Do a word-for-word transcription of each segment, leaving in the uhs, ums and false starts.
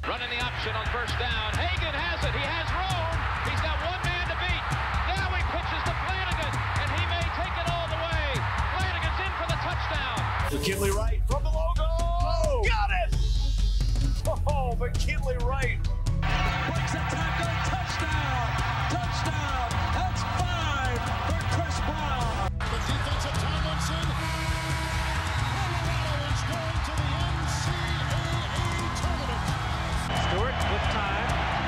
Running the option on first down. Hagan has it. He has room. He's got one man to beat. Now he pitches to Flanagan, and he may take it all the way. Flanagan's in for the touchdown. McKinley Wright from the logo. Oh, got it! Oh, McKinley Wright. Breaks a tackle. Touchdown. Touchdown. That's five for Chris Brown. The defensive Tomlinson. Colorado is going to the N C double A tournament. Stewart with time.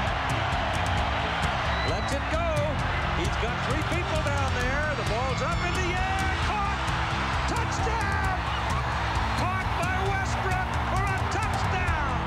Lets it go. He's got three people down there. The ball's up in the air. Caught. Touchdown. Caught by Westbrook for a touchdown.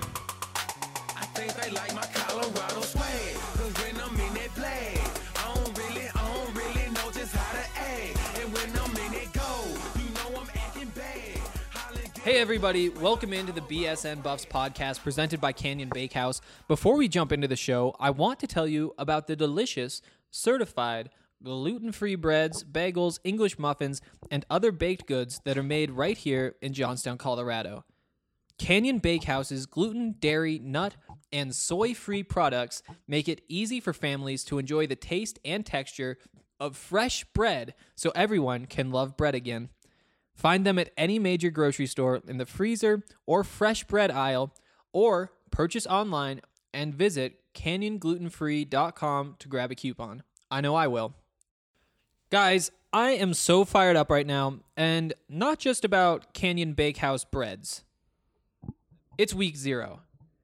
I think they like my Colorado swag. Cause when I'm in that play, I don't really, I don't really know just how to act. And when I'm in it go, you know I'm acting bad. Hey everybody, welcome into the B S N Buffs podcast presented by Canyon Bakehouse. Before we jump into the show, I want to tell you about the delicious, certified, gluten-free breads, bagels, English muffins, and other baked goods that are made right here in Johnstown, Colorado. Canyon Bakehouse's gluten, dairy, nut, and soy-free products make it easy for families to enjoy the taste and texture of fresh bread so everyone can love bread again. Find them at any major grocery store in the freezer or fresh bread aisle, or purchase online and visit canyon gluten free dot com to grab a coupon. I know I will. Guys, I am so fired up right now, and not just about Canyon Bakehouse breads. It's week zero.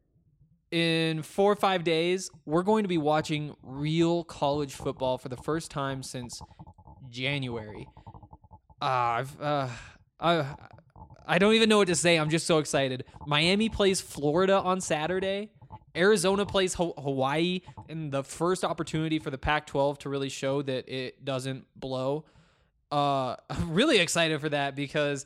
In four or five days, we're going to be watching real college football for the first time since January. Uh, I've, uh, I, I don't even know what to say. I'm just so excited. Miami plays Florida on Saturday. Arizona plays Ho- Hawaii in the first opportunity for the Pac twelve to really show that it doesn't blow. Uh, I'm really excited for that because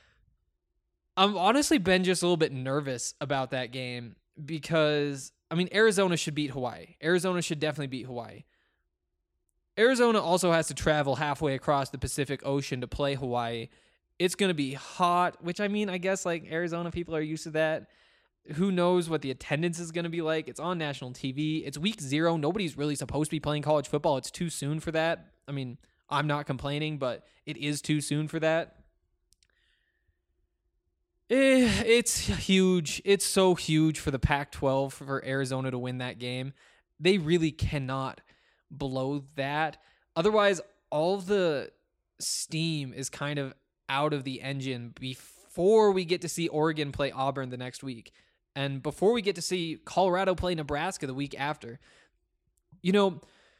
I've honestly been just a little bit nervous about that game because, I mean, Arizona should beat Hawaii. Arizona should definitely beat Hawaii. Arizona also has to travel halfway across the Pacific Ocean to play Hawaii. It's going to be hot, which, I mean, I guess, like, Arizona people are used to that. Who knows what the attendance is going to be like? It's on national T V. It's week zero. Nobody's really supposed to be playing college football. It's too soon for that. I mean, I'm not complaining, but it is too soon for that. Eh, it's huge. It's so huge for the Pac twelve for Arizona to win that game. They really cannot blow that. Otherwise, all the steam is kind of out of the engine before we get to see Oregon play Auburn the next week. And before we get to see Colorado play Nebraska the week after. You know,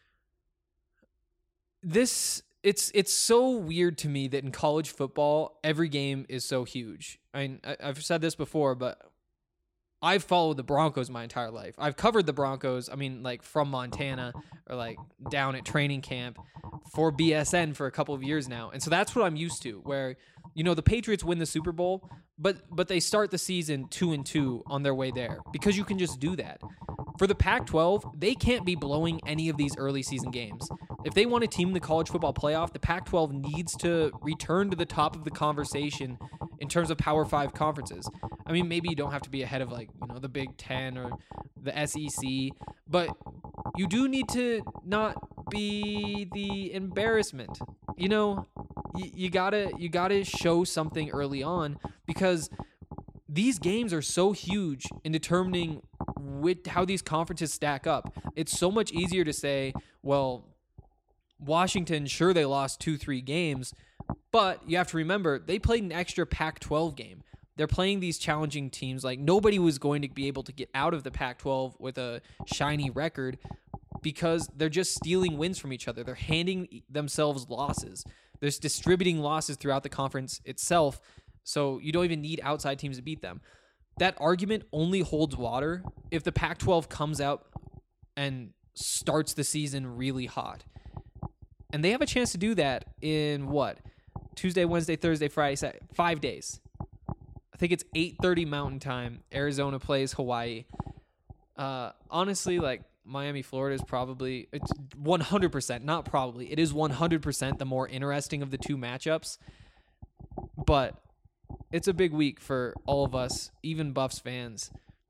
this it's it's so weird to me that in college football, every game is so huge. I mean, I, I've said this before, but I've followed the Broncos my entire life. I've covered the Broncos, I mean, like from Montana or like down at training camp for B S N for a couple of years now. And so that's what I'm used to, where, you know, the Patriots win the Super Bowl, but but they start the season two and two on their way there because you can just do that. For the Pac twelve, they can't be blowing any of these early season games. If they want to team the college football playoff, the Pac twelve needs to return to the top of the conversation in terms of Power Five conferences. I mean, maybe you don't have to be ahead of, like, you know, the Big Ten or the S E C, but you do need to not be the embarrassment. You know, you, you gotta you gotta show something early on because these games are so huge in determining with how these conferences stack up. It's so much easier to say, well, Washington, sure, they lost two, three games, but you have to remember they played an extra Pac twelve game. They're playing these challenging teams. Like, nobody was going to be able to get out of the Pac twelve with a shiny record because they're just stealing wins from each other. They're handing themselves losses. They're distributing losses throughout the conference itself, so you don't even need outside teams to beat them. That argument only holds water if the Pac twelve comes out and starts the season really hot. And they have a chance to do that in, what, Tuesday, Wednesday, Thursday, Friday, Saturday, five days. I think it's eight thirty Mountain Time. Arizona plays Hawaii. Uh, honestly, like, Miami, Florida is probably, it's one hundred percent, not probably, it is one hundred percent the more interesting of the two matchups. But it's a big week for all of us, even Buffs fans.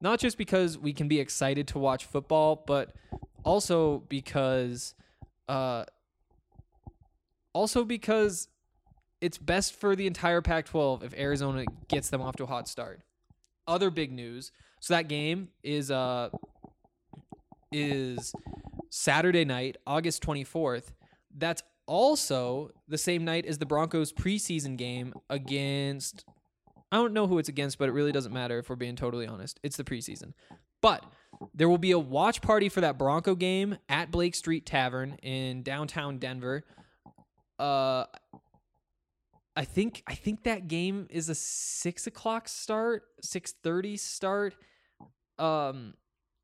Not just because we can be excited to watch football, but also because, uh, also because it's best for the entire Pac twelve if Arizona gets them off to a hot start. Other big news. So that game is uh is Saturday night, August twenty-fourth. That's also the same night as the Broncos preseason game against, I don't know who it's against, but it really doesn't matter if we're being totally honest. It's the preseason. But there will be a watch party for that Bronco game at Blake Street Tavern in downtown Denver. Uh I think I think that game is a six o'clock start, six thirty start. Um,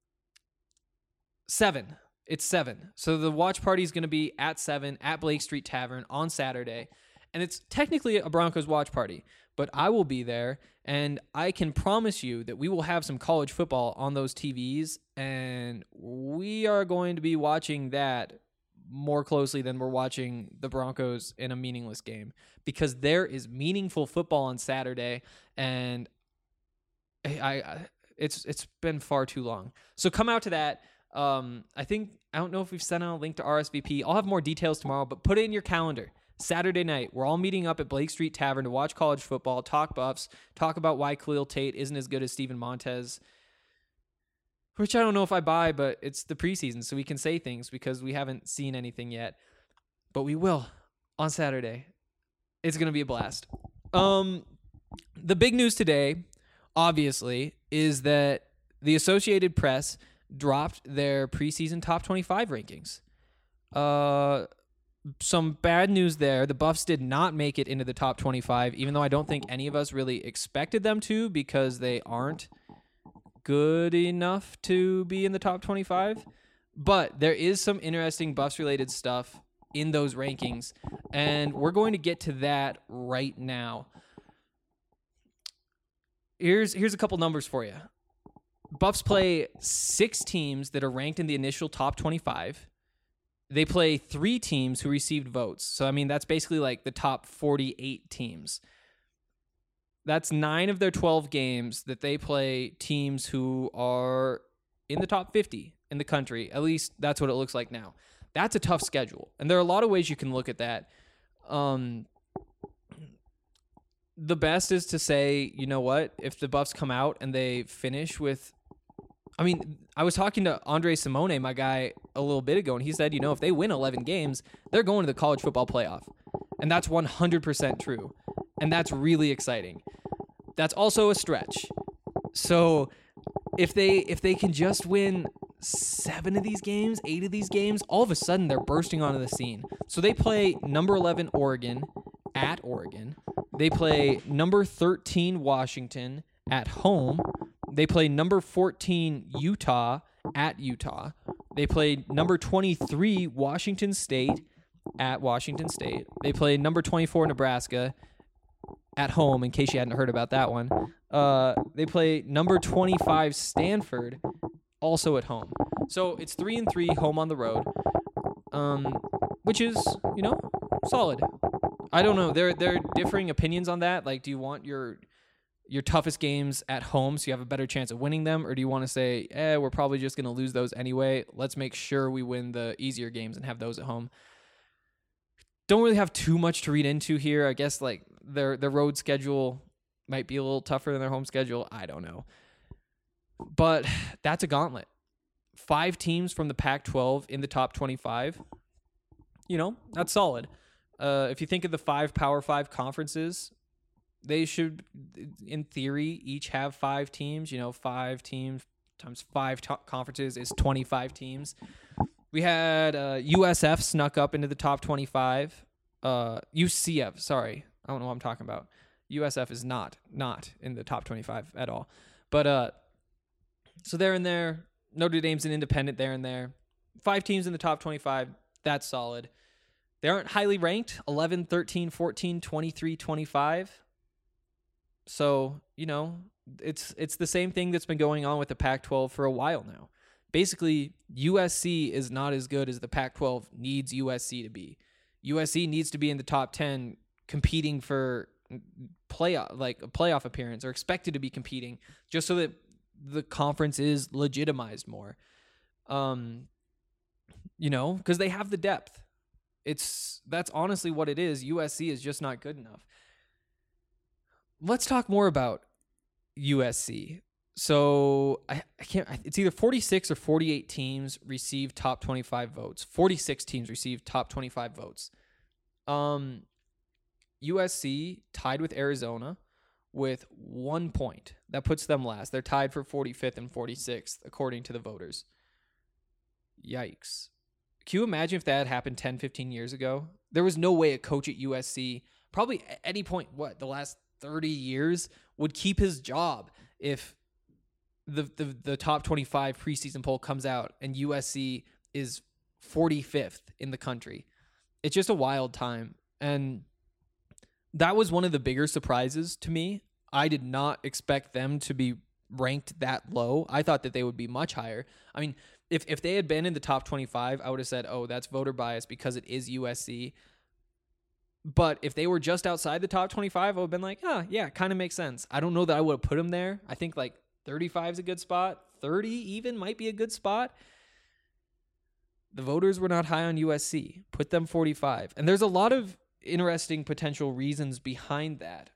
seven. It's seven. So the watch party is going to be at seven at Blake Street Tavern on Saturday, and it's technically a Broncos watch party. But I will be there, and I can promise you that we will have some college football on those T Vs, and we are going to be watching that more closely than we're watching the Broncos in a meaningless game, because there is meaningful football on Saturday, and I, I it's it's been far too long. So come out to that. Um, I think I don't know if we've sent out a link to R S V P. I'll have more details tomorrow, but put it in your calendar. Saturday night, we're all meeting up at Blake Street Tavern to watch college football, talk Buffs, talk about why Khalil Tate isn't as good as Steven Montez. Which I don't know if I buy, but it's the preseason, so we can say things because we haven't seen anything yet. But we will on Saturday. It's going to be a blast. Um, the big news today, obviously, is that the Associated Press dropped their preseason top twenty-five rankings. Uh, some bad news there. The Buffs did not make it into the top twenty-five, even though I don't think any of us really expected them to, because they aren't good enough to be in the top twenty-five. But there is some interesting Buffs related stuff in those rankings, and we're going to get to that right now. Here's here's a couple numbers for you. Buffs play six teams that are ranked in the initial top twenty-five. They play three teams who received votes. So I mean that's basically like the top forty-eight teams. That's nine of their twelve games that they play teams who are in the top fifty in the country. At least that's what it looks like now. That's a tough schedule. And there are a lot of ways you can look at that. Um, the best is to say, you know what? If the Buffs come out and they finish with... I mean, I was talking to Andre Simone, my guy, a little bit ago, and he said, you know, if they win eleven games, they're going to the college football playoff. And that's one hundred percent true. And that's really exciting. That's also a stretch. So if they if they can just win seven of these games, eight of these games, all of a sudden they're bursting onto the scene. So they play number eleven Oregon at Oregon. They play number thirteen Washington at home. They play number fourteen Utah at Utah. They play number twenty-three Washington State at Washington State. They play number twenty-four Nebraska at home, in case you hadn't heard about that one. Uh, they play number twenty-five Stanford, also at home. So it's three and three, home on the road, um, which is, you know, solid. I don't know. There, there are differing opinions on that. Like, do you want your your toughest games at home so you have a better chance of winning them, or do you want to say, eh, we're probably just going to lose those anyway. Let's make sure we win the easier games and have those at home. Don't really have too much to read into here. I guess like their their road schedule might be a little tougher than their home schedule. I don't know. But that's a gauntlet. Five teams from the Pac twelve in the top twenty-five. You know, that's solid. Uh, if you think of the five Power Five conferences, they should, in theory, each have five teams. You know, five teams times five to- conferences is twenty-five teams. We had uh, U S F snuck up into the top twenty-five. Uh, U C F, sorry. I don't know what I'm talking about. U S F is not, not in the top twenty-five at all. But, uh, so they're in there. Notre Dame's an independent there and there. Five teams in the top twenty-five. That's solid. They aren't highly ranked. eleven, thirteen, fourteen, twenty-three, twenty-five. So, you know, it's it's the same thing that's been going on with the Pac twelve for a while now. Basically, U S C is not as good as the Pac twelve needs U S C to be. U S C needs to be in the top ten competing for playoff, like a playoff appearance, or expected to be competing, just so that the conference is legitimized more. Um, you know, because they have the depth. It's that's honestly what it is. U S C is just not good enough. Let's talk more about U S C. So I, I can't. It's either forty-six or forty-eight teams received top twenty-five votes. forty-six teams received top twenty-five votes. Um, U S C tied with Arizona with one point. That puts them last. They're tied for forty-fifth and forty-sixth according to the voters. Yikes. Can you imagine if that had happened ten, fifteen years ago? There was no way a coach at U S C, probably at any point, what, the last thirty years, would keep his job if the, the, the top twenty-five preseason poll comes out and U S C is forty-fifth in the country. It's just a wild time. And that was one of the bigger surprises to me. I did not expect them to be ranked that low. I thought that they would be much higher. I mean, If if they had been in the top twenty-five, I would have said, oh, that's voter bias because it is U S C. But if they were just outside the top twenty-five, I would have been like, oh, yeah, kind of makes sense. I don't know that I would have put them there. I think like thirty-five is a good spot. thirty even might be a good spot. The voters were not high on U S C. Put them forty-five. And there's a lot of interesting potential reasons behind that.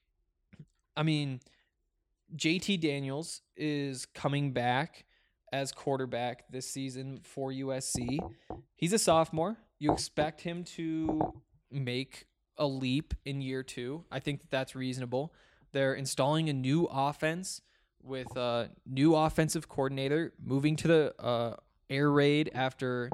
I mean, J T Daniels is coming back as quarterback this season for U S C. He's a sophomore. You expect him to make a leap in year two. I think that that's reasonable. They're installing a new offense with a new offensive coordinator, moving to the uh, air raid after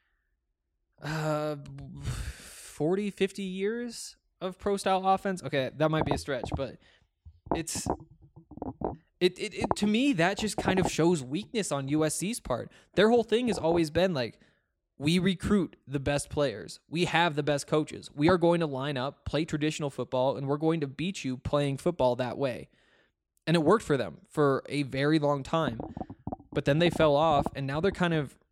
uh, forty, fifty years of pro-style offense. Okay, that might be a stretch, but it's... It, it it to me, that just kind of shows weakness on U S C's part. Their whole thing has always been like, we recruit the best players. We have the best coaches. We are going to line up, play traditional football, and we're going to beat you playing football that way. And it worked for them for a very long time. But then they fell off, and now they're kind of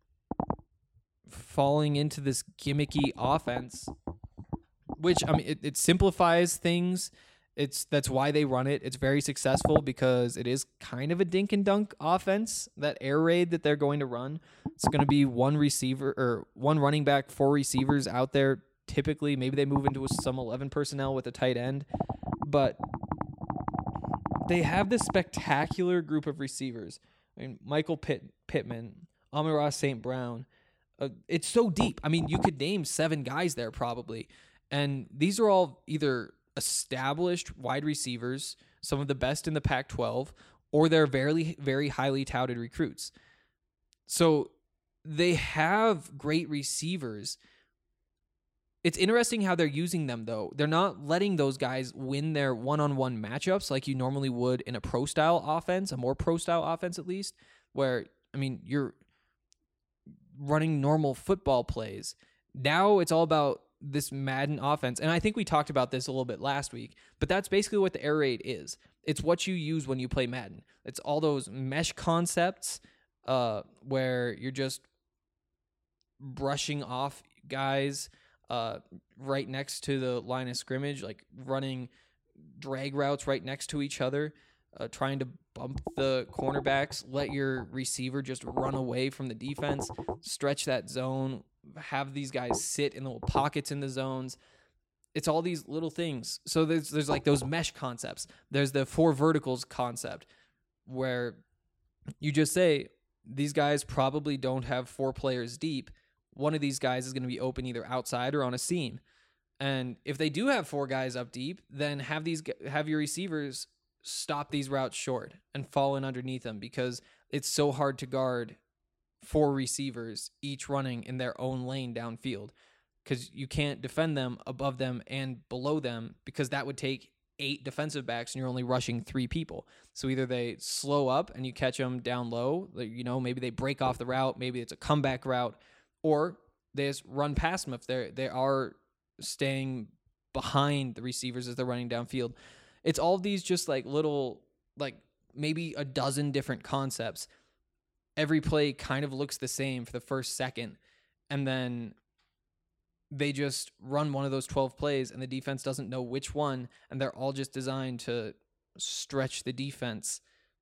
falling into this gimmicky offense, which, I mean, it, it simplifies things. It's that's why they run it. It's very successful because it is kind of a dink and dunk offense. That air raid that they're going to run, it's going to be one receiver or one running back, four receivers out there. Typically, maybe they move into some eleven personnel with a tight end, but they have this spectacular group of receivers. I mean, Michael Pitt, Pittman, Amon-Ra Saint Brown. Uh, it's so deep. I mean, you could name seven guys there probably, and these are all either established wide receivers, some of the best in the Pac twelve, or they're very, very highly touted recruits. So they have great receivers. It's interesting how they're using them, though. They're not letting those guys win their one-on-one matchups like you normally would in a pro-style offense, a more pro-style offense at least, where, I mean, you're running normal football plays. Now it's all about this Madden offense. And I think we talked about this a little bit last week, but that's basically what the air raid is. It's what you use when you play Madden. It's all those mesh concepts uh, where you're just brushing off guys uh, right next to the line of scrimmage, like running drag routes right next to each other, uh, trying to bump the cornerbacks, let your receiver just run away from the defense, stretch that zone, have these guys sit in little pockets in the zones. It's all these little things. So there's there's like those mesh concepts. There's the four verticals concept where you just say these guys probably don't have four players deep. One of these guys is going to be open either outside or on a seam. And if they do have four guys up deep, then have these have your receivers stop these routes short and fall in underneath them because it's so hard to guard four receivers each running in their own lane downfield because you can't defend them above them and below them because that would take eight defensive backs and you're only rushing three people. So either they slow up and you catch them down low, you know, maybe they break off the route, maybe it's a comeback route, or they just run past them if they're they are staying behind the receivers as they're running downfield. It's all these just like little, like maybe a dozen different concepts. Every play kind of looks the same for the first second, and then they just run one of those twelve plays, and the defense doesn't know which one, and they're all just designed to stretch the defense.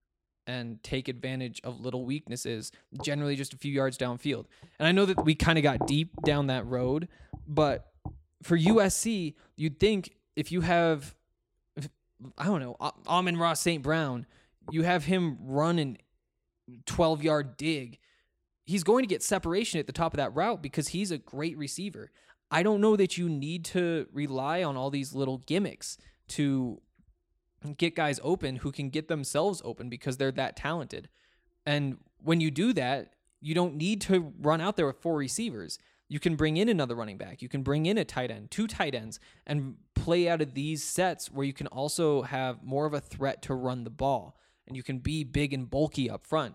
and take advantage of little weaknesses, generally just a few yards downfield. And I know that we kind of got deep down that road, but for U S C, you'd think if you have, I don't know, Amon-Ra Saint Brown, you have him run an twelve-yard dig, he's going to get separation at the top of that route because he's a great receiver. I don't know that you need to rely on all these little gimmicks to get guys open who can get themselves open because they're that talented. And when you do that, you don't need to run out there with four receivers. You can bring in another running back. You can bring in a tight end, two tight ends, and play out of these sets where you can also have more of a threat to run the ball, and you can be big and bulky up front.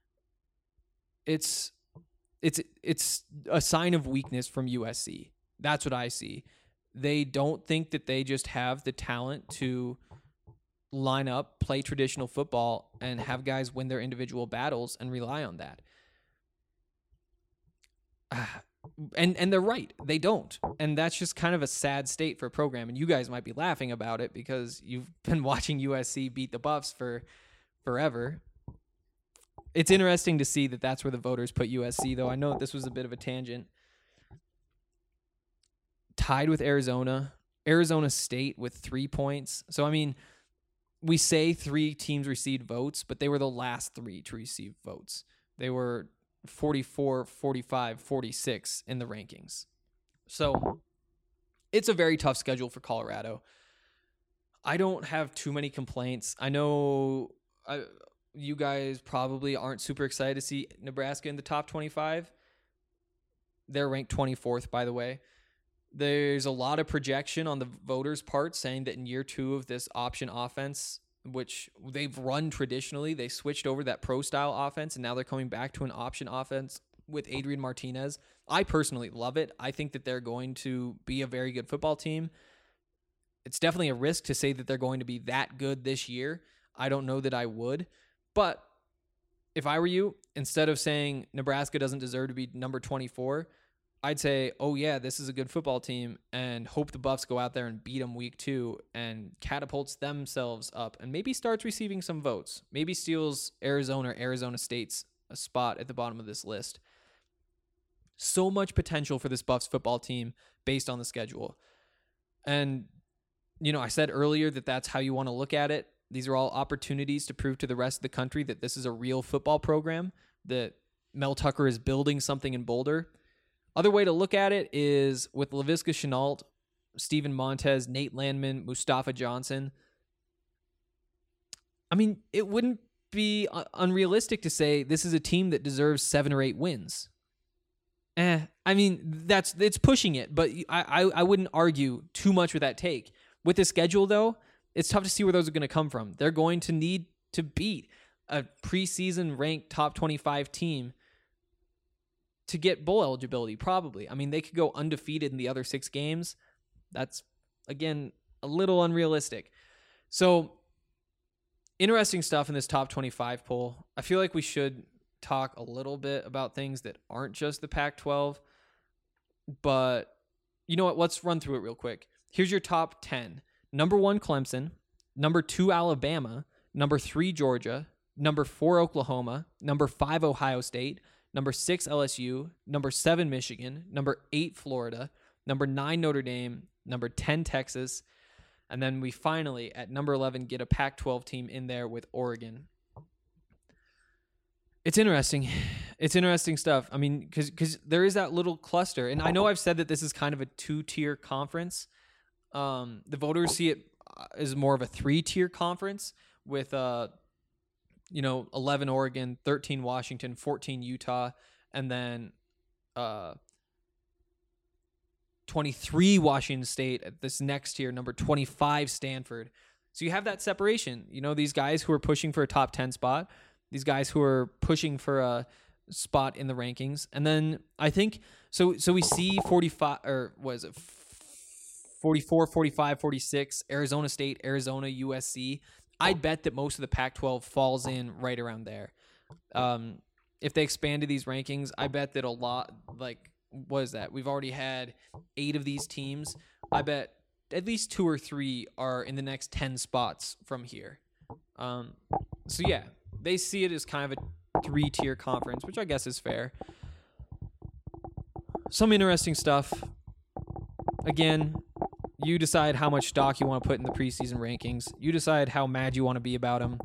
It's it's it's a sign of weakness from U S C. That's what I see. They don't think that they just have the talent to line up, play traditional football, and have guys win their individual battles and rely on that. And and they're right. They don't. And that's just kind of a sad state for a program. And you guys might be laughing about it because you've been watching U S C beat the Buffs for forever. It's interesting to see that that's where the voters put U S C, though. I know this was a bit of a tangent. Tied with Arizona. Arizona State with three points. So, I mean, we say three teams received votes, but they were the last three to receive votes. They were forty-four, forty-five, forty-six in the rankings. So, it's a very tough schedule for Colorado. I don't have too many complaints. I know I, you guys probably aren't super excited to see Nebraska in the top twenty-five. They're ranked twenty-fourth, by the way. There's a lot of projection on the voters' part saying that in year two of this option offense, which they've run traditionally, they switched over that pro-style offense, and now they're coming back to an option offense with Adrian Martinez. I personally love it. I think that they're going to be a very good football team. It's definitely a risk to say that they're going to be that good this year. I don't know that I would. But if I were you, instead of saying Nebraska doesn't deserve to be number twenty-four, I'd say, oh yeah, this is a good football team, and hope the Buffs go out there and beat them week two and catapults themselves up and maybe starts receiving some votes. Maybe steals Arizona or Arizona State's a spot at the bottom of this list. So much potential for this Buffs football team based on the schedule. And, you know, I said earlier that that's how you want to look at it. These are all opportunities to prove to the rest of the country that this is a real football program, that Mel Tucker is building something in Boulder. Other way to look at it is with Laviska Shenault, Steven Montez, Nate Landman, Mustafa Johnson. I mean, it wouldn't be unrealistic to say this is a team that deserves seven or eight wins. Eh, I mean, that's it's pushing it, but I, I, I wouldn't argue too much with that take. With the schedule, though, it's tough to see where those are going to come from. They're going to need to beat a preseason ranked top twenty-five team to get bowl eligibility, probably. I mean, they could go undefeated in the other six games. That's, again, a little unrealistic. So, interesting stuff in this top twenty-five poll. I feel like we should talk a little bit about things that aren't just the Pac twelve. But, you know what? Let's run through it real quick. Here's your top ten. Number one, Clemson. Number two, Alabama. Number three, Georgia. Number four, Oklahoma. Number five, Ohio State. Number six, L S U. Number seven, Michigan. Number eight, Florida. Number nine, Notre Dame. Number ten, Texas. And then we finally, at number eleven, get a Pac twelve team in there with Oregon. It's interesting. It's interesting stuff. I mean, because because there is that little cluster. And I know I've said that this is kind of a two-tier conference. Um, the voters see it as more of a three-tier conference with uh. you know, eleven Oregon, thirteen Washington, fourteen Utah, and then uh, twenty-three Washington State at this next tier, number twenty-five Stanford. So you have that separation. You know, these guys who are pushing for a top ten spot, these guys who are pushing for a spot in the rankings. And then I think, so so we see forty-five, or what is it, forty-four, forty-five, forty-six, Arizona State, Arizona, U S C. I'd bet that most of the Pac twelve falls in right around there. Um, if they expanded these rankings, I bet that a lot, like, what is that? We've already had eight of these teams. I bet at least two or three are in the next ten spots from here. Um, so, yeah, they see it as kind of a three-tier conference, which I guess is fair. Some interesting stuff. Again, you decide how much stock you want to put in the preseason rankings. You decide how mad you want to be about them.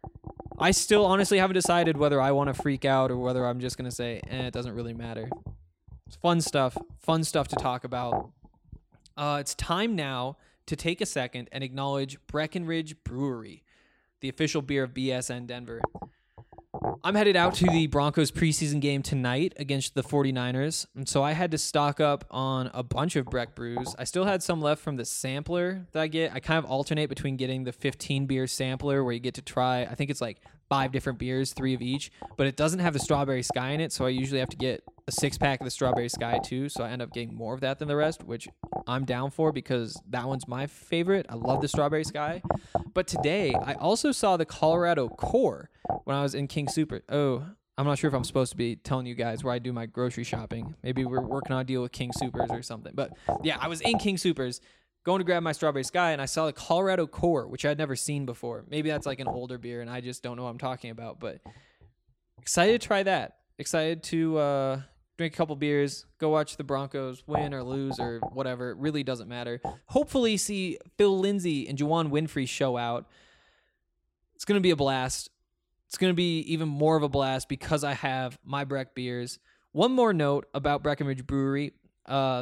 I still honestly haven't decided whether I want to freak out or whether I'm just going to say, eh, it doesn't really matter. It's fun stuff. Fun stuff to talk about. Uh, it's time now to take a second and acknowledge Breckenridge Brewery, the official beer of B S N Denver. I'm headed out to the Broncos preseason game tonight against the forty-niners, and so I had to stock up on a bunch of Breck brews. I still had some left from the sampler that I get. I kind of alternate between getting the fifteen beer sampler where you get to try, I think it's like five different beers, three of each, but it doesn't have the Strawberry Sky in it, so I usually have to get a six-pack of the Strawberry Sky too, so I end up getting more of that than the rest, which I'm down for because that one's my favorite. I love the Strawberry Sky. But today, I also saw the Colorado Core when I was in King Super. Oh, I'm not sure if I'm supposed to be telling you guys where I do my grocery shopping. Maybe we're working on a deal with King Supers or something. But yeah, I was in King Supers going to grab my Strawberry Sky, and I saw the Colorado Core, which I'd never seen before. Maybe that's like an older beer, and I just don't know what I'm talking about. But excited to try that. Excited to uh, drink a couple beers, go watch the Broncos win or lose or whatever. It really doesn't matter. Hopefully see Phil Lindsay and Juwan Winfrey show out. It's going to be a blast. It's going to be even more of a blast because I have my Breck beers. One more note about Breckenridge Brewery. Uh,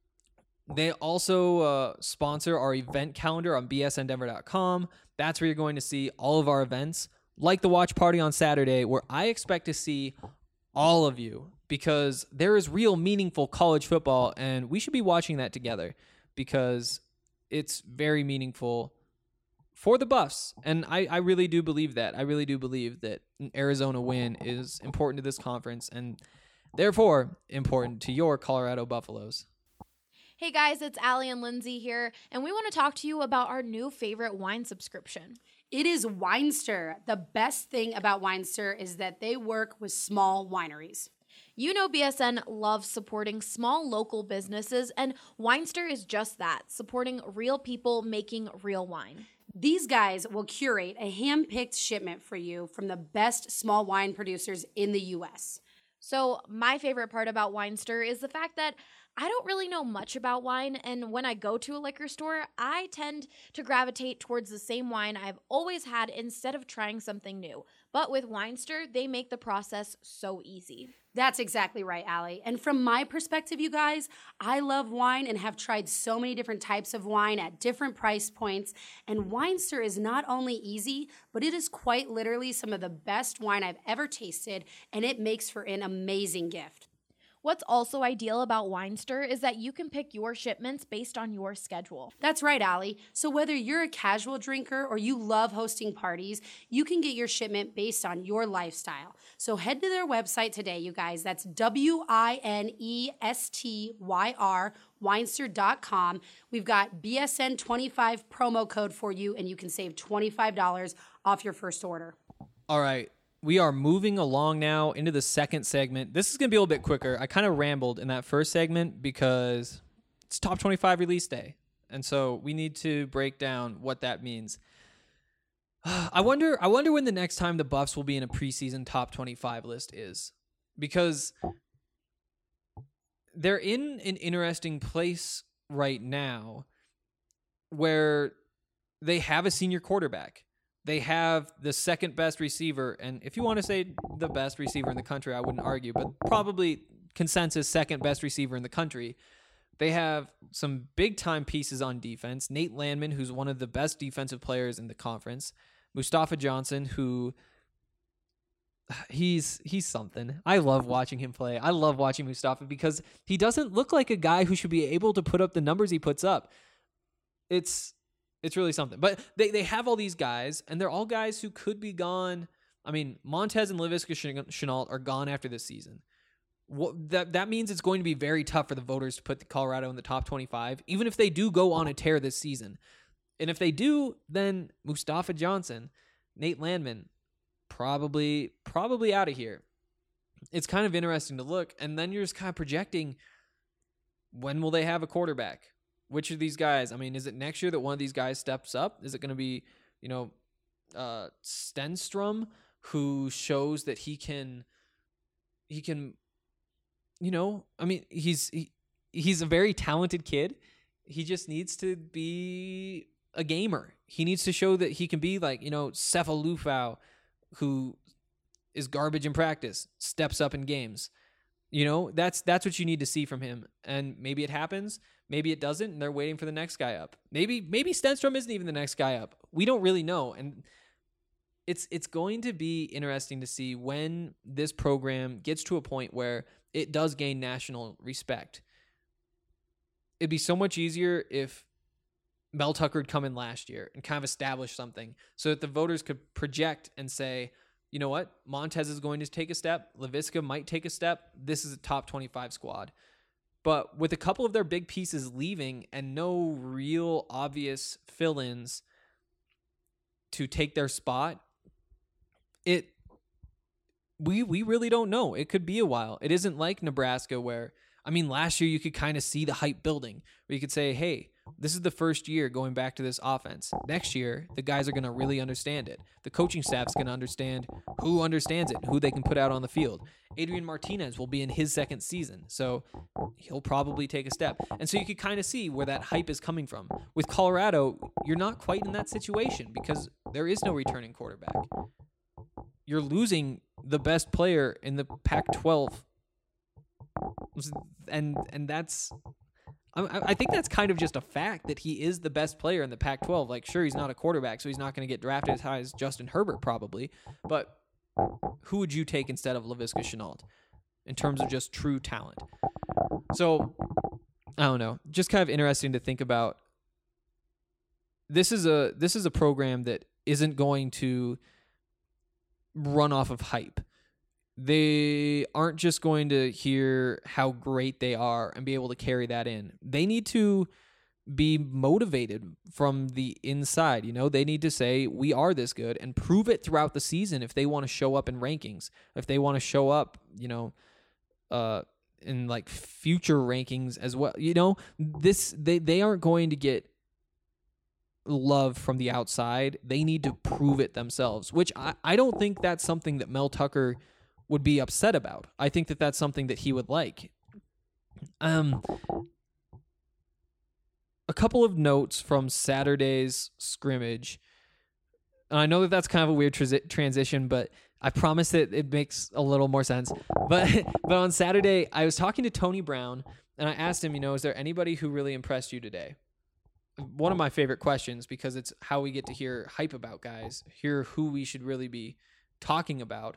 they also uh, sponsor our event calendar on B S N Denver dot com. That's where you're going to see all of our events, like the watch party on Saturday, where I expect to see all of you because there is real meaningful college football, and we should be watching that together because it's very meaningful for the Buffs. And I, I really do believe that. I really do believe that an Arizona win is important to this conference and therefore important to your Colorado Buffaloes. Hey guys, it's Allie and Lindsay here, and we want to talk to you about our new favorite wine subscription. It is Winester. The best thing about Winester is that they work with small wineries. You know B S N loves supporting small local businesses, and Winester is just that, supporting real people making real wine. These guys will curate a hand-picked shipment for you from the best small wine producers in the U S. So my favorite part about Winester is the fact that I don't really know much about wine, and when I go to a liquor store, I tend to gravitate towards the same wine I've always had instead of trying something new. But with Winester, they make the process so easy. That's exactly right, Allie. And from my perspective, you guys, I love wine and have tried so many different types of wine at different price points. And Winester is not only easy, but it is quite literally some of the best wine I've ever tasted, and it makes for an amazing gift. What's also ideal about Winester is that you can pick your shipments based on your schedule. That's right, Allie. So whether you're a casual drinker or you love hosting parties, you can get your shipment based on your lifestyle. So head to their website today, you guys. That's W I N E S T Y R, Winester dot com. We've got B S N twenty-five promo code for you, and you can save twenty-five dollars off your first order. All right. We are moving along now into the second segment. This is going to be a little bit quicker. I kind of rambled in that first segment because it's top twenty-five release day. And so we need to break down what that means. I wonder I wonder when the next time the Buffs will be in a preseason top twenty-five list is. Because they're in an interesting place right now where they have a senior quarterback. They have the second best receiver, and if you want to say the best receiver in the country, I wouldn't argue, but probably consensus second best receiver in the country. They have some big-time pieces on defense. Nate Landman, who's one of the best defensive players in the conference. Mustafa Johnson, who he's he's something. I love watching him play. I love watching Mustafa because he doesn't look like a guy who should be able to put up the numbers he puts up. It's... It's really something. But they, they have all these guys, and they're all guys who could be gone. I mean, Montez and Laviska Shenault are gone after this season. What, that, that means it's going to be very tough for the voters to put Colorado in the top twenty-five, even if they do go on a tear this season. And if they do, then Mustafa Johnson, Nate Landman, probably, probably out of here. It's kind of interesting to look, and then you're just kind of projecting, when will they have a quarterback? Which of these guys? I mean, is it next year that one of these guys steps up? Is it going to be, you know, uh, Stenstrom, who shows that he can, he can, you know, I mean, he's, he, he's a very talented kid. He just needs to be a gamer. He needs to show that he can be like, you know, Sefa Lufau, who is garbage in practice, steps up in games. You know, that's that's what you need to see from him. And maybe it happens, maybe it doesn't, and they're waiting for the next guy up. Maybe maybe Stenstrom isn't even the next guy up. We don't really know. And it's it's going to be interesting to see when this program gets to a point where it does gain national respect. It'd be so much easier if Mel Tucker had come in last year and kind of establish something so that the voters could project and say, you know what, Montez is going to take a step. Laviska might take a step. This is a top twenty-five squad. But with a couple of their big pieces leaving and no real obvious fill-ins to take their spot, it we we really don't know. It could be a while. It isn't like Nebraska where, I mean, last year you could kind of see the hype building where you could say, hey, this is the first year going back to this offense. Next year, the guys are going to really understand it. The coaching staff's going to understand who understands it, who they can put out on the field. Adrian Martinez will be in his second season, so he'll probably take a step. And so you could kind of see where that hype is coming from. With Colorado, you're not quite in that situation because there is no returning quarterback. You're losing the best player in the Pac twelve. And and that's... I, I think that's kind of just a fact that he is the best player in the Pac twelve. Like, sure, he's not a quarterback, so he's not going to get drafted as high as Justin Herbert probably. But who would you take instead of Laviska Shenault in terms of just true talent? So, I don't know. Just kind of interesting to think about. This is a this is a program that isn't going to run off of hype. They aren't just going to hear how great they are and be able to carry that in. They need to be motivated from the inside. You know, they need to say, we are this good and prove it throughout the season if they want to show up in rankings, if they want to show up, you know, uh, in like future rankings as well. You know, this, they, they aren't going to get love from the outside. They need to prove it themselves, which I, I don't think that's something that Mel Tucker would be upset about. I think that that's something that he would like. Um, a couple of notes from Saturday's scrimmage. And I know that that's kind of a weird transi- transition, but I promise that it makes a little more sense. But but on Saturday, I was talking to Tony Brown, and I asked him, you know, is there anybody who really impressed you today? One of my favorite questions, because it's how we get to hear hype about guys, hear who we should really be talking about.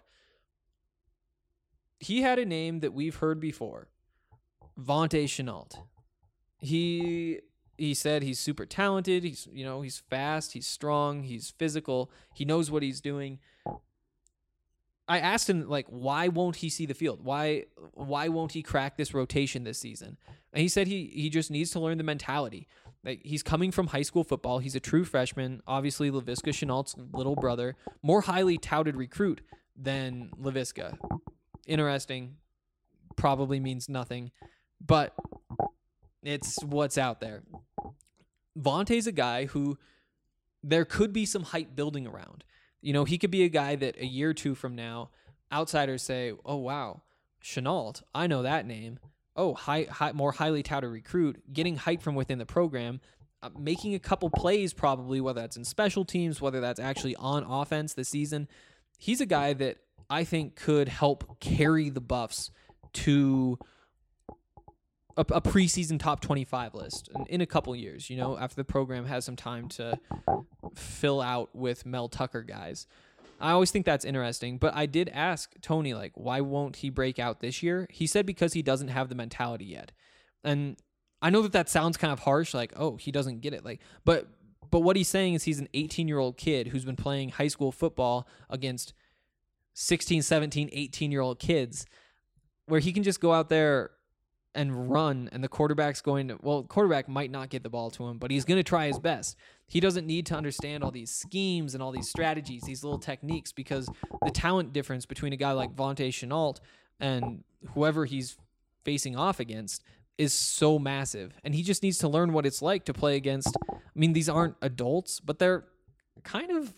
He had a name that we've heard before, Vontae Shenault. He he said he's super talented. He's you know he's fast. He's strong. He's physical. He knows what he's doing. I asked him like, why won't he see the field? Why why won't he crack this rotation this season? And he said he he just needs to learn the mentality. Like, he's coming from high school football. He's a true freshman. Obviously, Laviska Shenault's little brother, more highly touted recruit than Laviska. Interesting, probably means nothing, but it's what's out there. Vontae's a guy who there could be some hype building around. You know, he could be a guy that a year or two from now, outsiders say, oh, wow, Shenault, I know that name. Oh, high, high, more highly touted recruit, getting hype from within the program, uh, making a couple plays probably, whether that's in special teams, whether that's actually on offense this season. He's a guy that I think could help carry the Buffs to a, a preseason top twenty-five list in, in a couple years, you know, after the program has some time to fill out with Mel Tucker guys. I always think that's interesting, but I did ask Tony, like, why won't he break out this year? He said because he doesn't have the mentality yet. And I know that that sounds kind of harsh, like, oh, he doesn't get it. Like, but but what he's saying is he's an eighteen-year-old kid who's been playing high school football against sixteen, seventeen, eighteen-year-old kids, where he can just go out there and run, and the quarterback's going to, well, quarterback might not get the ball to him, but he's going to try his best. He doesn't need to understand all these schemes and all these strategies, these little techniques, because the talent difference between a guy like Vontae Shenault and whoever he's facing off against is so massive. And he just needs to learn what it's like to play against, I mean, these aren't adults, but they're kind of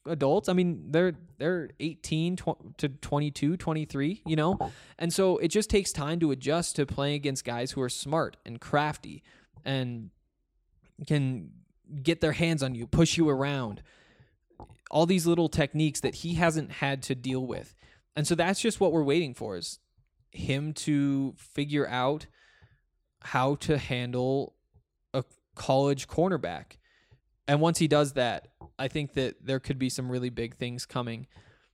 adults. I mean, they're they're eighteen to twenty-two, twenty-three, you know? And so it just takes time to adjust to playing against guys who are smart and crafty and can get their hands on you, push you around. All these little techniques that he hasn't had to deal with. And so that's just what we're waiting for, is him to figure out how to handle a college cornerback. And once he does that, I think that there could be some really big things coming.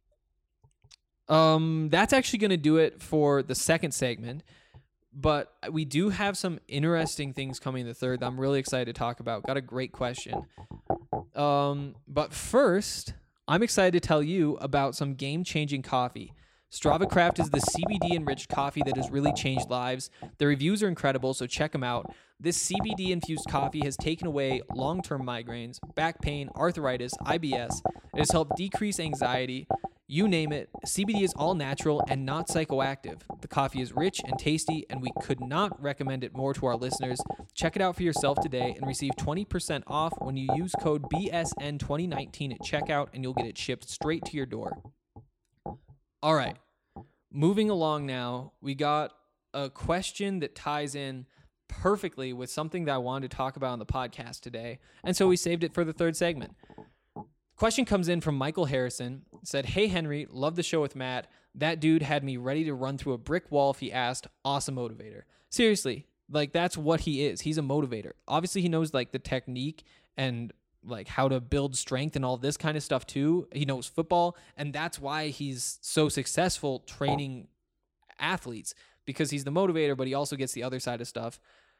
Um, that's actually going to do it for the second segment. But we do have some interesting things coming in the third that I'm really excited to talk about. Got a great question. Um, but first, I'm excited to tell you about some game-changing coffee. Strava Craft is the C B D-enriched coffee that has really changed lives. The reviews are incredible, so check them out. This C B D-infused coffee has taken away long-term migraines, back pain, arthritis, I B S. It has helped decrease anxiety. You name it, C B D is all natural and not psychoactive. The coffee is rich and tasty, and we could not recommend it more to our listeners. Check it out for yourself today and receive twenty percent off when you use code B S N twenty nineteen at checkout, and you'll get it shipped straight to your door. All right, moving along now, we got a question that ties in perfectly with something that I wanted to talk about on the podcast today, and so we saved it for the third segment. Question comes in from Michael Harrison. Said, "Hey Henry, love the show with Matt. That dude had me ready to run through a brick wall if he asked. Awesome motivator." Seriously, like that's what he is. He's a motivator. Obviously, he knows like the technique and like how to build strength and all this kind of stuff too. He knows football, and that's why he's so successful training athletes, because he's the motivator, but he also gets the other side of stuff.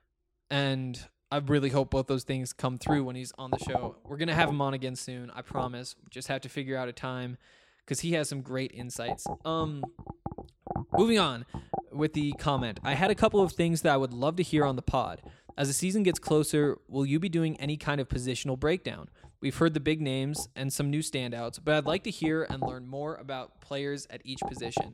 And I really hope both those things come through when he's on the show. We're going to have him on again soon, I promise. Just have to figure out a time because he has some great insights. Um, moving on with the comment. I had a couple of things that I would love to hear on the pod. As the season gets closer, will you be doing any kind of positional breakdown? We've heard the big names and some new standouts, but I'd like to hear and learn more about players at each position.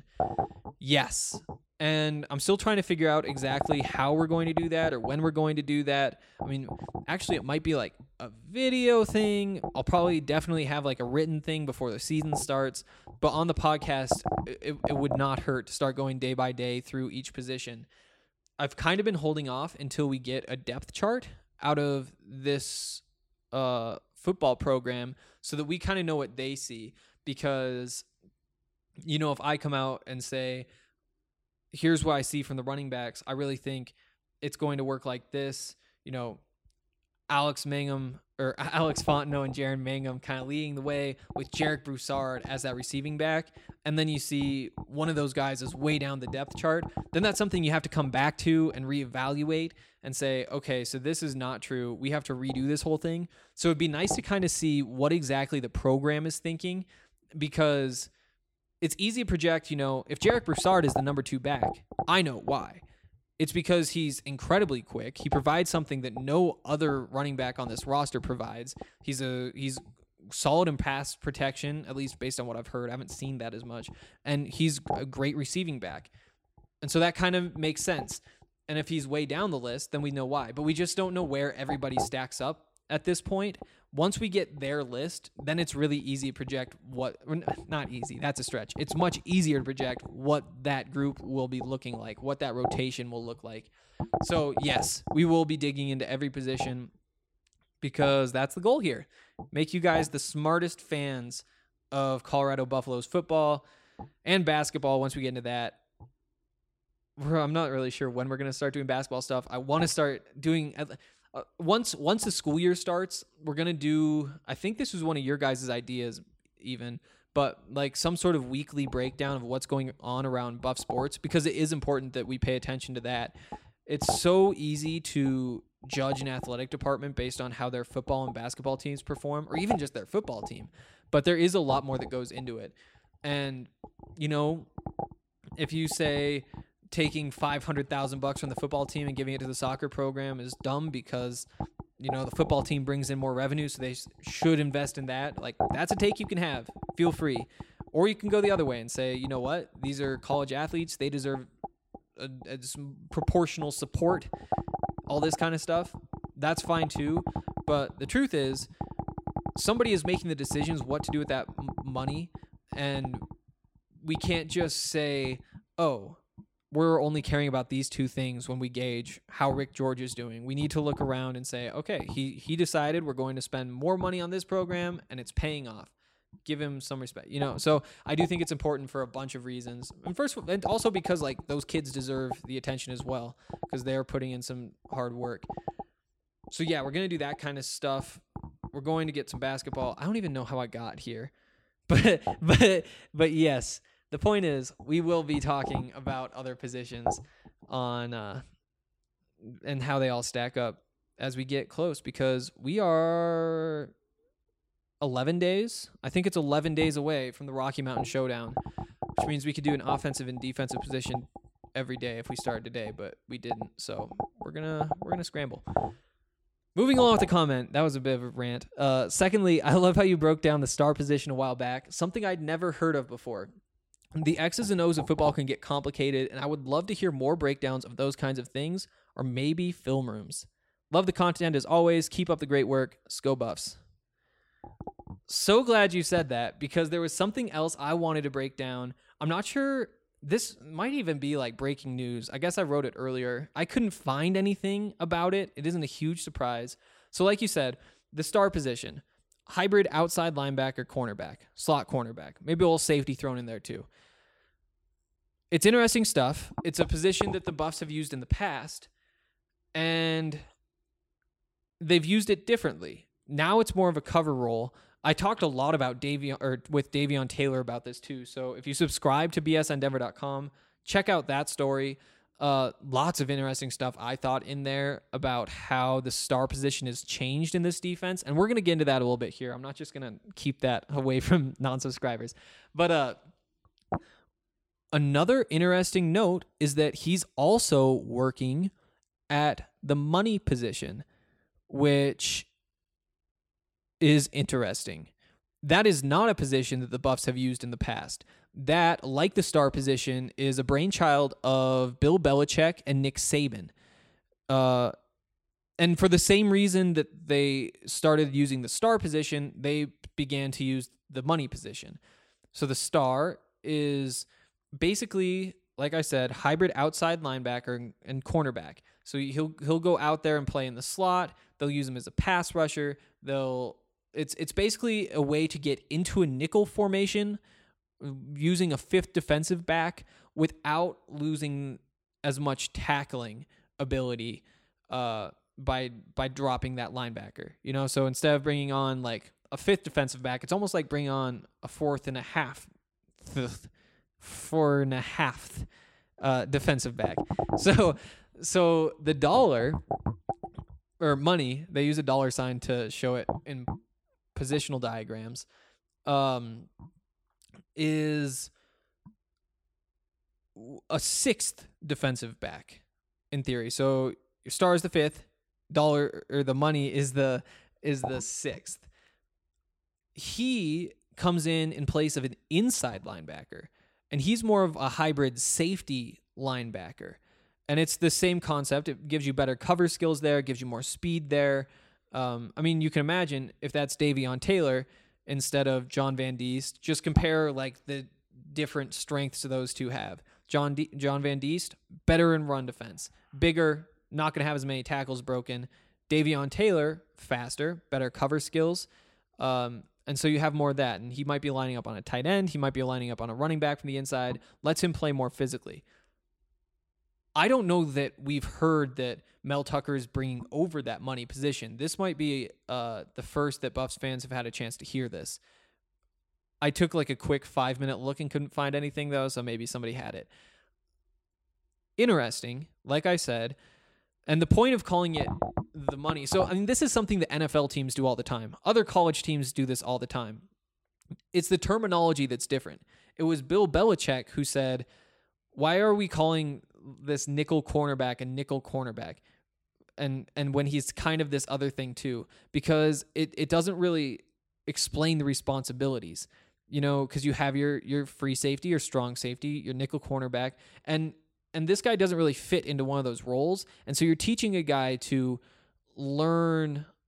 Yes. And I'm still trying to figure out exactly how we're going to do that or when we're going to do that. I mean, actually, it might be like a video thing. I'll probably definitely have like a written thing before the season starts. But on the podcast, it, it would not hurt to start going day by day through each position. I've kind of been holding off until we get a depth chart out of this uh, football program so that we kind of know what they see. Because, you know, if I come out and say, here's what I see from the running backs, I really think it's going to work like this. You know, Alex Mangum or Alex Fontenot and Jaron Mangum kind of leading the way with Jarek Broussard as that receiving back. And then you see one of those guys is way down the depth chart. Then that's something you have to come back to and reevaluate and say, okay, so this is not true. We have to redo this whole thing. So it'd be nice to kind of see what exactly the program is thinking, because it's easy to project, you know, if Jarek Broussard is the number two back, I know why. It's because he's incredibly quick. He provides something that no other running back on this roster provides. He's a he's solid in pass protection, at least based on what I've heard. I haven't seen that as much. And he's a great receiving back. And so that kind of makes sense. And if he's way down the list, then we know why. But we just don't know where everybody stacks up at this point. Once we get their list, then it's really easy to project what, not easy, that's a stretch. It's much easier to project what that group will be looking like, what that rotation will look like. So yes, we will be digging into every position because that's the goal here. Make you guys the smartest fans of Colorado Buffaloes football and basketball once we get into that. I'm not really sure when we're going to start doing basketball stuff. I want to start doing... Uh, once once the school year starts, we're going to do, I think this was one of your guys' ideas even, but like some sort of weekly breakdown of what's going on around Buff sports, because it is important that we pay attention to that. It's so easy to judge an athletic department based on how their football and basketball teams perform, or even just their football team. But there is a lot more that goes into it. And, you know, if you say taking five hundred thousand bucks from the football team and giving it to the soccer program is dumb because, you know, the football team brings in more revenue, so they should invest in that. Like, that's a take you can have. Feel free. Or you can go the other way and say, you know what? These are college athletes. They deserve a, a, some proportional support, all this kind of stuff. That's fine too. But the truth is, somebody is making the decisions what to do with that m- money, and we can't just say, oh, we're only caring about these two things when we gauge how Rick George is doing. We need to look around and say, okay, he he decided we're going to spend more money on this program and it's paying off. Give him some respect, you know? So I do think it's important for a bunch of reasons. And first, and also because like those kids deserve the attention as well, because they're putting in some hard work. So yeah, we're going to do that kind of stuff. We're going to get some basketball. I don't even know how I got here, but, but, but yes, the point is we will be talking about other positions on, uh, and how they all stack up as we get close, because we are eleven days. I think it's eleven days away from the Rocky Mountain Showdown, which means we could do an offensive and defensive position every day if we started today, but we didn't. So we're gonna we're gonna scramble. Moving along with the comment, that was a bit of a rant. Uh, secondly, I love how you broke down the star position a while back, something I'd never heard of before. The X's and O's of football can get complicated, and I would love to hear more breakdowns of those kinds of things, or maybe film rooms. Love the content as always. Keep up the great work. Sco Buffs. So glad you said that, because there was something else I wanted to break down. I'm not sure, this might even be like breaking news. I guess I wrote it earlier. I couldn't find anything about it. It isn't a huge surprise. So like you said, the star position, hybrid outside linebacker, cornerback, slot cornerback, maybe a little safety thrown in there too. It's interesting stuff. It's a position that the Buffs have used in the past, and they've used it differently. Now it's more of a cover role. I talked a lot about Davion, or with Davion Taylor about this too. So if you subscribe to B S N Denver dot com, check out that story. Uh, lots of interesting stuff I thought in there about how the star position has changed in this defense. And we're going to get into that a little bit here. I'm not just going to keep that away from non-subscribers. But uh, another interesting note is that he's also working at the money position, which is interesting. That is not a position that the Buffs have used in the past. That, like the star position, is a brainchild of Bill Belichick and Nick Saban. Uh, and for the same reason that they started using the star position, they began to use the money position. So the star is basically, like I said, hybrid outside linebacker and cornerback. So he'll he'll go out there and play in the slot. They'll use him as a pass rusher. They'll It's it's basically a way to get into a nickel formation using a fifth defensive back without losing as much tackling ability uh, by by dropping that linebacker. You know, so instead of bringing on like a fifth defensive back, it's almost like bringing on a fourth and a half, th- four and a half uh, defensive back. So so the dollar or money, they use a dollar sign to show it in positional diagrams, um, is a sixth defensive back in theory. So your star is the fifth, dollar or the money is the is the sixth. He comes in in place of an inside linebacker, and he's more of a hybrid safety linebacker. And it's the same concept. It gives you better cover skills there, gives you more speed there. Um, I mean, you can imagine if that's Davion Taylor instead of John Van Diest. Just compare like the different strengths those two have. John D- John Van Diest, better in run defense, bigger, not going to have as many tackles broken. Davion Taylor, faster, better cover skills. Um, and so you have more of that. And he might be lining up on a tight end. He might be lining up on a running back from the inside. Lets him play more physically. I don't know that we've heard that Mel Tucker is bringing over that money position. This might be uh, the first that Buffs fans have had a chance to hear this. I took like a quick five minute look and couldn't find anything though, so maybe somebody had it. Interesting, like I said, and the point of calling it the money. So, I mean, this is something that N F L teams do all the time. Other college teams do this all the time. It's the terminology that's different. It was Bill Belichick who said, why are we calling this nickel cornerback and nickel cornerback? And and when he's kind of this other thing too, because it, it doesn't really explain the responsibilities, you know, because you have your your free safety, your strong safety, your nickel cornerback, and and this guy doesn't really fit into one of those roles. And so you're teaching a guy to learn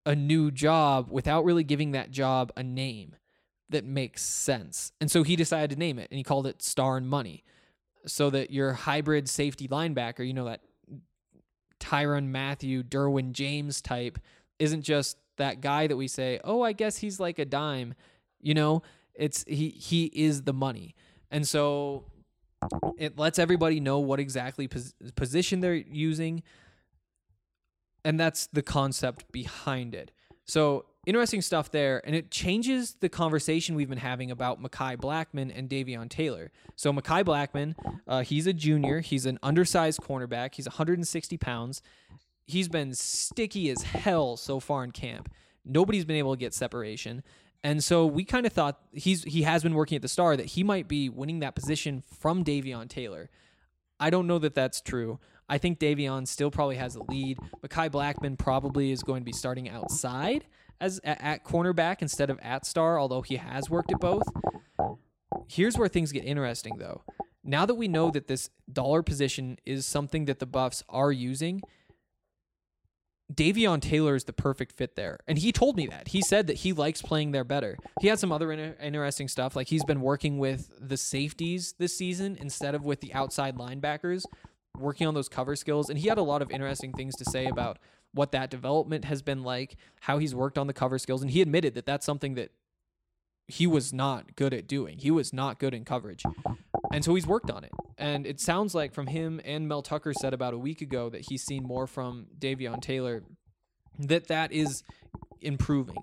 a new job without really giving that job a name that makes sense. And so he decided to name it, and he called it Star and Money, so that your hybrid safety linebacker, you know, that Tyrann Mathieu, Derwin James type, isn't just that guy that we say, oh, I guess he's like a dime. You know, it's he he is the money. And so it lets everybody know what exactly pos- position they're using. And that's the concept behind it. So interesting stuff there. And it changes the conversation we've been having about Mekhi Blackmon and Davion Taylor. So Mekhi Blackmon, uh, he's a junior. He's an undersized cornerback. He's one hundred sixty pounds. He's been sticky as hell so far in camp. Nobody's been able to get separation. And so we kind of thought he's he has been working at the Star, that he might be winning that position from Davion Taylor. I don't know that that's true. I think Davion still probably has a lead. Mekhi Blackmon probably is going to be starting outside as at, at cornerback instead of at Star, although he has worked at both. Here's where things get interesting, though. Now that we know that this dollar position is something that the Buffs are using, Davion Taylor is the perfect fit there. And he told me that. He said that he likes playing there better. He had some other inter- interesting stuff, like he's been working with the safeties this season instead of with the outside linebackers, working on those cover skills. And he had a lot of interesting things to say about what that development has been like, how he's worked on the cover skills. And he admitted that that's something that he was not good at doing. He was not good in coverage. And so he's worked on it. And it sounds like from him and Mel Tucker said about a week ago that he's seen more from Davion Taylor, that that is improving.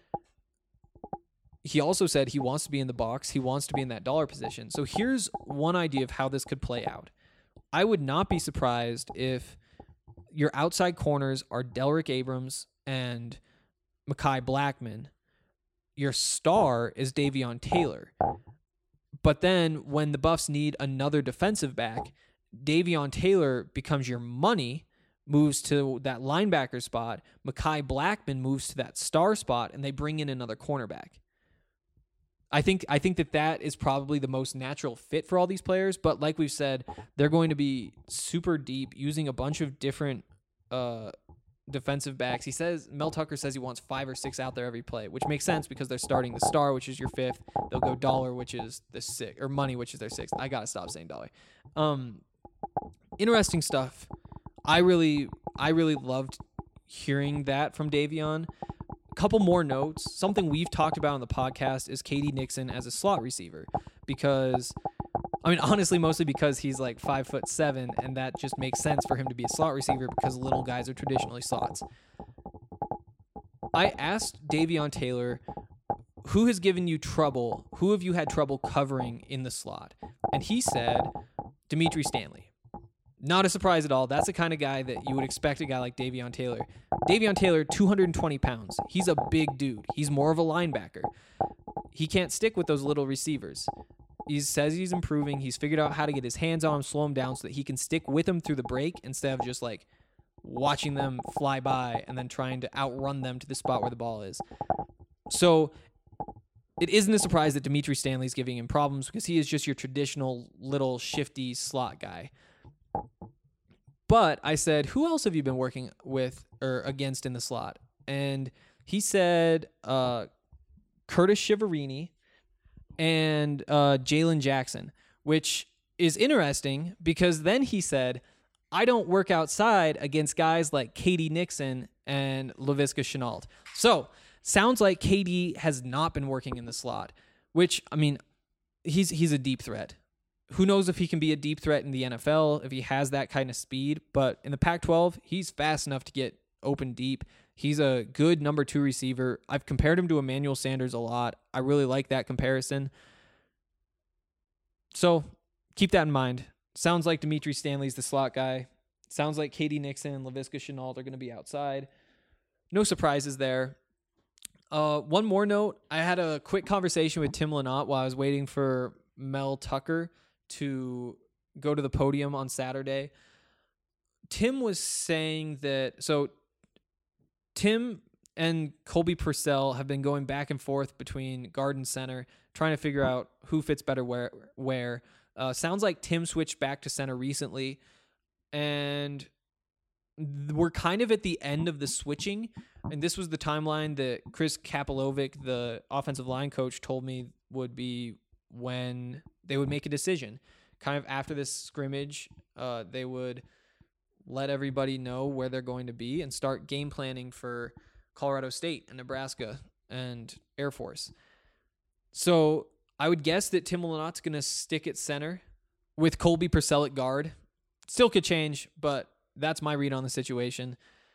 He also said he wants to be in the box. He wants to be in that dollar position. So here's one idea of how this could play out. I would not be surprised if your outside corners are Delrick Abrams and Mekhi Blackmon. Your star is Davion Taylor. But then when the Buffs need another defensive back, Davion Taylor becomes your money, moves to that linebacker spot. Mekhi Blackmon moves to that star spot, and they bring in another cornerback. I think I think that that is probably the most natural fit for all these players. But like we've said, they're going to be super deep, using a bunch of different uh, defensive backs. He says, Mel Tucker says he wants five or six out there every play, which makes sense because they're starting the Star, which is your fifth. They'll go dollar, which is the sixth, or money, which is their sixth. I gotta stop saying dollar. Um, interesting stuff. I really, I really loved hearing that from Davion. Couple more notes. Something we've talked about on the podcast is K D Nixon as a slot receiver, because I mean, honestly, mostly because he's like five foot seven, and that just makes sense for him to be a slot receiver because little guys are traditionally slots. I asked Davion Taylor, who has given you trouble? Who have you had trouble covering in the slot? And he said, Dimitri Stanley. Not a surprise at all. That's the kind of guy that you would expect a guy like Davion Taylor. Davion Taylor, two hundred twenty pounds. He's a big dude. He's more of a linebacker. He can't stick with those little receivers. He says he's improving. He's figured out how to get his hands on him, slow him down so that he can stick with him through the break instead of just like watching them fly by and then trying to outrun them to the spot where the ball is. So it isn't a surprise that Dimitri Stanley's giving him problems because he is just your traditional little shifty slot guy. But I said, who else have you been working with or against in the slot? And he said uh, Curtis Shiverini and uh, Jalen Jackson, which is interesting because then he said, I don't work outside against guys like K D Nixon and Laviska Shenault. So sounds like K D has not been working in the slot, which, I mean, he's he's a deep threat. Who knows if he can be a deep threat in the N F L, if he has that kind of speed, but in the Pac twelve, he's fast enough to get open deep. He's a good number two receiver. I've compared him to Emmanuel Sanders a lot. I really like that comparison. So keep that in mind. Sounds like Dimitri Stanley's the slot guy. Sounds like K D Nixon and Laviska Shenault are going to be outside. No surprises there. Uh, one more note. I had a quick conversation with Tim Lynott while I was waiting for Mel Tucker to go to the podium on Saturday. Tim was saying that, so Tim and Colby Purcell have been going back and forth between Garden Center, trying to figure out who fits better where. where. Uh, sounds like Tim switched back to center recently, and we're kind of at the end of the switching. And this was the timeline that Chris Kapilovic, the offensive line coach, told me would be when they would make a decision. Kind of after this scrimmage, uh, they would let everybody know where they're going to be and start game planning for Colorado State and Nebraska and Air Force. So I would guess that Tim Malinaut's going to stick at center with Colby Purcell at guard. Still could change, but that's my read on the situation.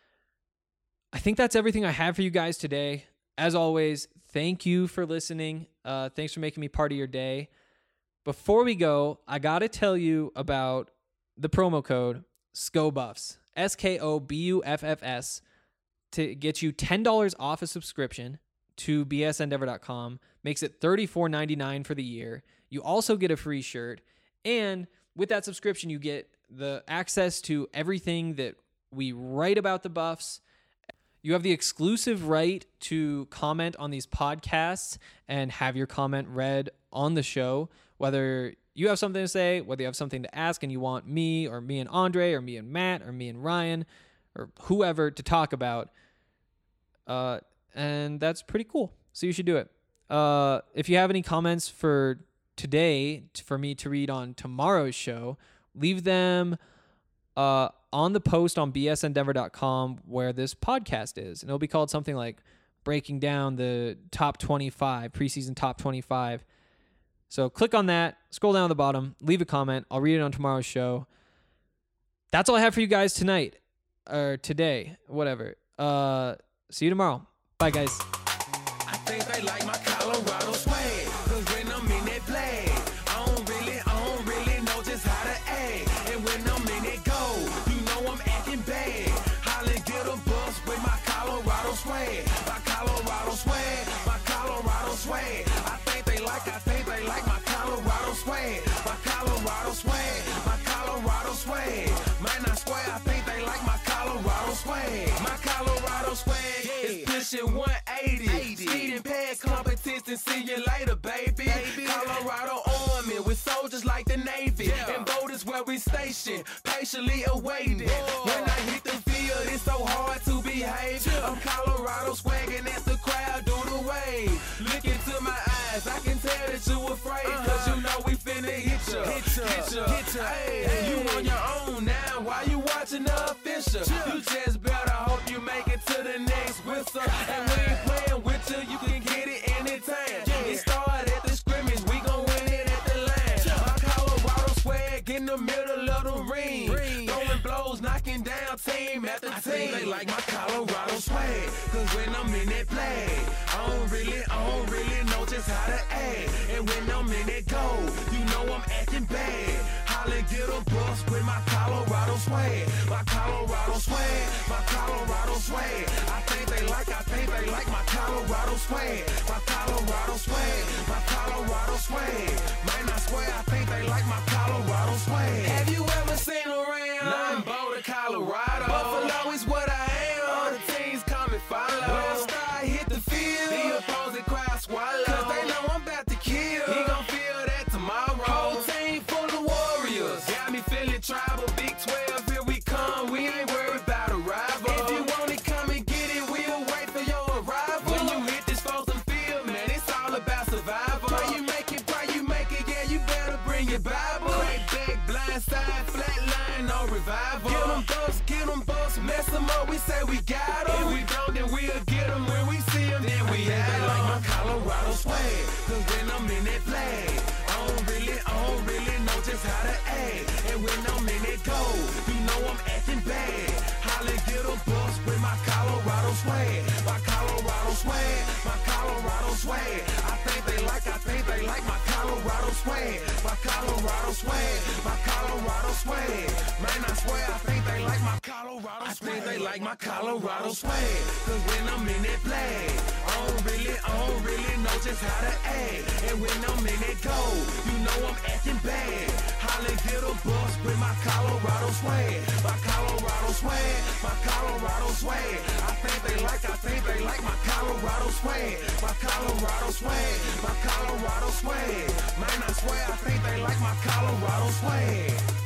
I think that's everything I have for you guys today. As always, thank you for listening. Uh, thanks for making me part of your day. Before we go, I got to tell you about the promo code SCOBuffs, S K O B U F F S, to get you ten dollars off a subscription to B S Endeavor dot com. Makes it thirty-four ninety-nine for the year. You also get a free shirt. And with that subscription, you get the access to everything that we write about the Buffs. You have the exclusive right to comment on these podcasts and have your comment read on the show, whether you have something to say, whether you have something to ask and you want me or me and Andre or me and Matt or me and Ryan or whoever to talk about. Uh, and that's pretty cool. So you should do it. Uh, if you have any comments for today for me to read on tomorrow's show, leave them uh, on the post on B S Endeavor dot com where this podcast is. And it'll be called something like Breaking Down the Top twenty-five, Preseason Top twenty-five. So click on that, scroll down to the bottom, leave a comment. I'll read it on tomorrow's show. That's all I have for you guys tonight, or today, whatever. Uh, see you tomorrow. Bye, guys. I think they like my Colorado swag, cause when I'm in that play, I don't really, I don't really know just how to act. And when I'm in that go, you know I'm acting bad. Holly get a bus with my Colorado swag, my Colorado swag, my Colorado swag. I think they like, I think they like my Colorado swag, my Colorado swag, my Colorado swag. Man, I swear, I think they like my Colorado swag, my Colorado swag is pushing one eighty. Speeding past competition, see you later, baby. baby. Colorado Army with soldiers like the Navy. Yeah. And boat is where we station, patiently awaiting. Whoa. When I hit the field, it's so hard to behave. Yeah. I'm Colorado swagging as the crowd do the wave. Look into my eyes, I can tell that you afraid. Uh-huh. Cause you know we finna hit ya, hit ya, hit ya. Hit ya. Hey, hey. You on your own now, why you watching the official? Yeah. You just better hope you make it to the next whistle. And we ain't playing with you, you can get it anytime. Yeah. It started at the scrimmage, we gon' win it at the line. Yeah. My Colorado swag in the middle of the ring. ring. Throwing blows, knocking down team after team. I think they like my Colorado swag, cause when I'm in that play, I don't really, I don't really know just how to act. And when I'm in that go, you know I'm acting bad. Holly get a bus with my Colorado swag, my Colorado swag, my Colorado swag. I think they like, I think they like my Colorado swag, my Colorado swag, my Colorado swag. Man, I swear, I think they like my Colorado swag. Have you ever seen around? Nah, I'm Boulder, Colorado. Buffalo is what I am. All the teams come and follow. When I start hit the field, the opposing crowd swallow. Cause they know I'm about to kill. He gon' feel that tomorrow. Whole team full of warriors. Got me feeling tribal. Big twelve, here we come. We ain't worried about a rival. If you want it, come and get it. We'll wait for your arrival. When you hit this frozen field, man, it's all about survival. Pray you make it, pray you make it. Yeah, you better bring your Bible. Crack back, blind side, flat line, no revival. Get them bucks, get them bucks, mess them up. We say we got them. If we don't, then we'll get them. When we see them, then we have them. Like my Colorado swag, cause when I'm in that flag, I don't really, I don't really know just how to act. And when I'm in that go, you know I'm acting bad. Holly get a bus with my Colorado swag, my Colorado swag, my Colorado swag. I think they like, I think they like my Colorado swag, my Colorado swag, my Colorado swag. Man, I swear, I think they like my Colorado swag. I think they like my Colorado swag, cause when I'm in that flag, I don't really, I don't really know just how to act. And when I'm in that go, you know I'm acting bad. Holly get a bus with my Colorado swag, my Colorado swag, my Colorado swag. I think they like, I think they like my Colorado swag, my Colorado swag, my Colorado swag. Man, I swear, I think they like my Colorado swag.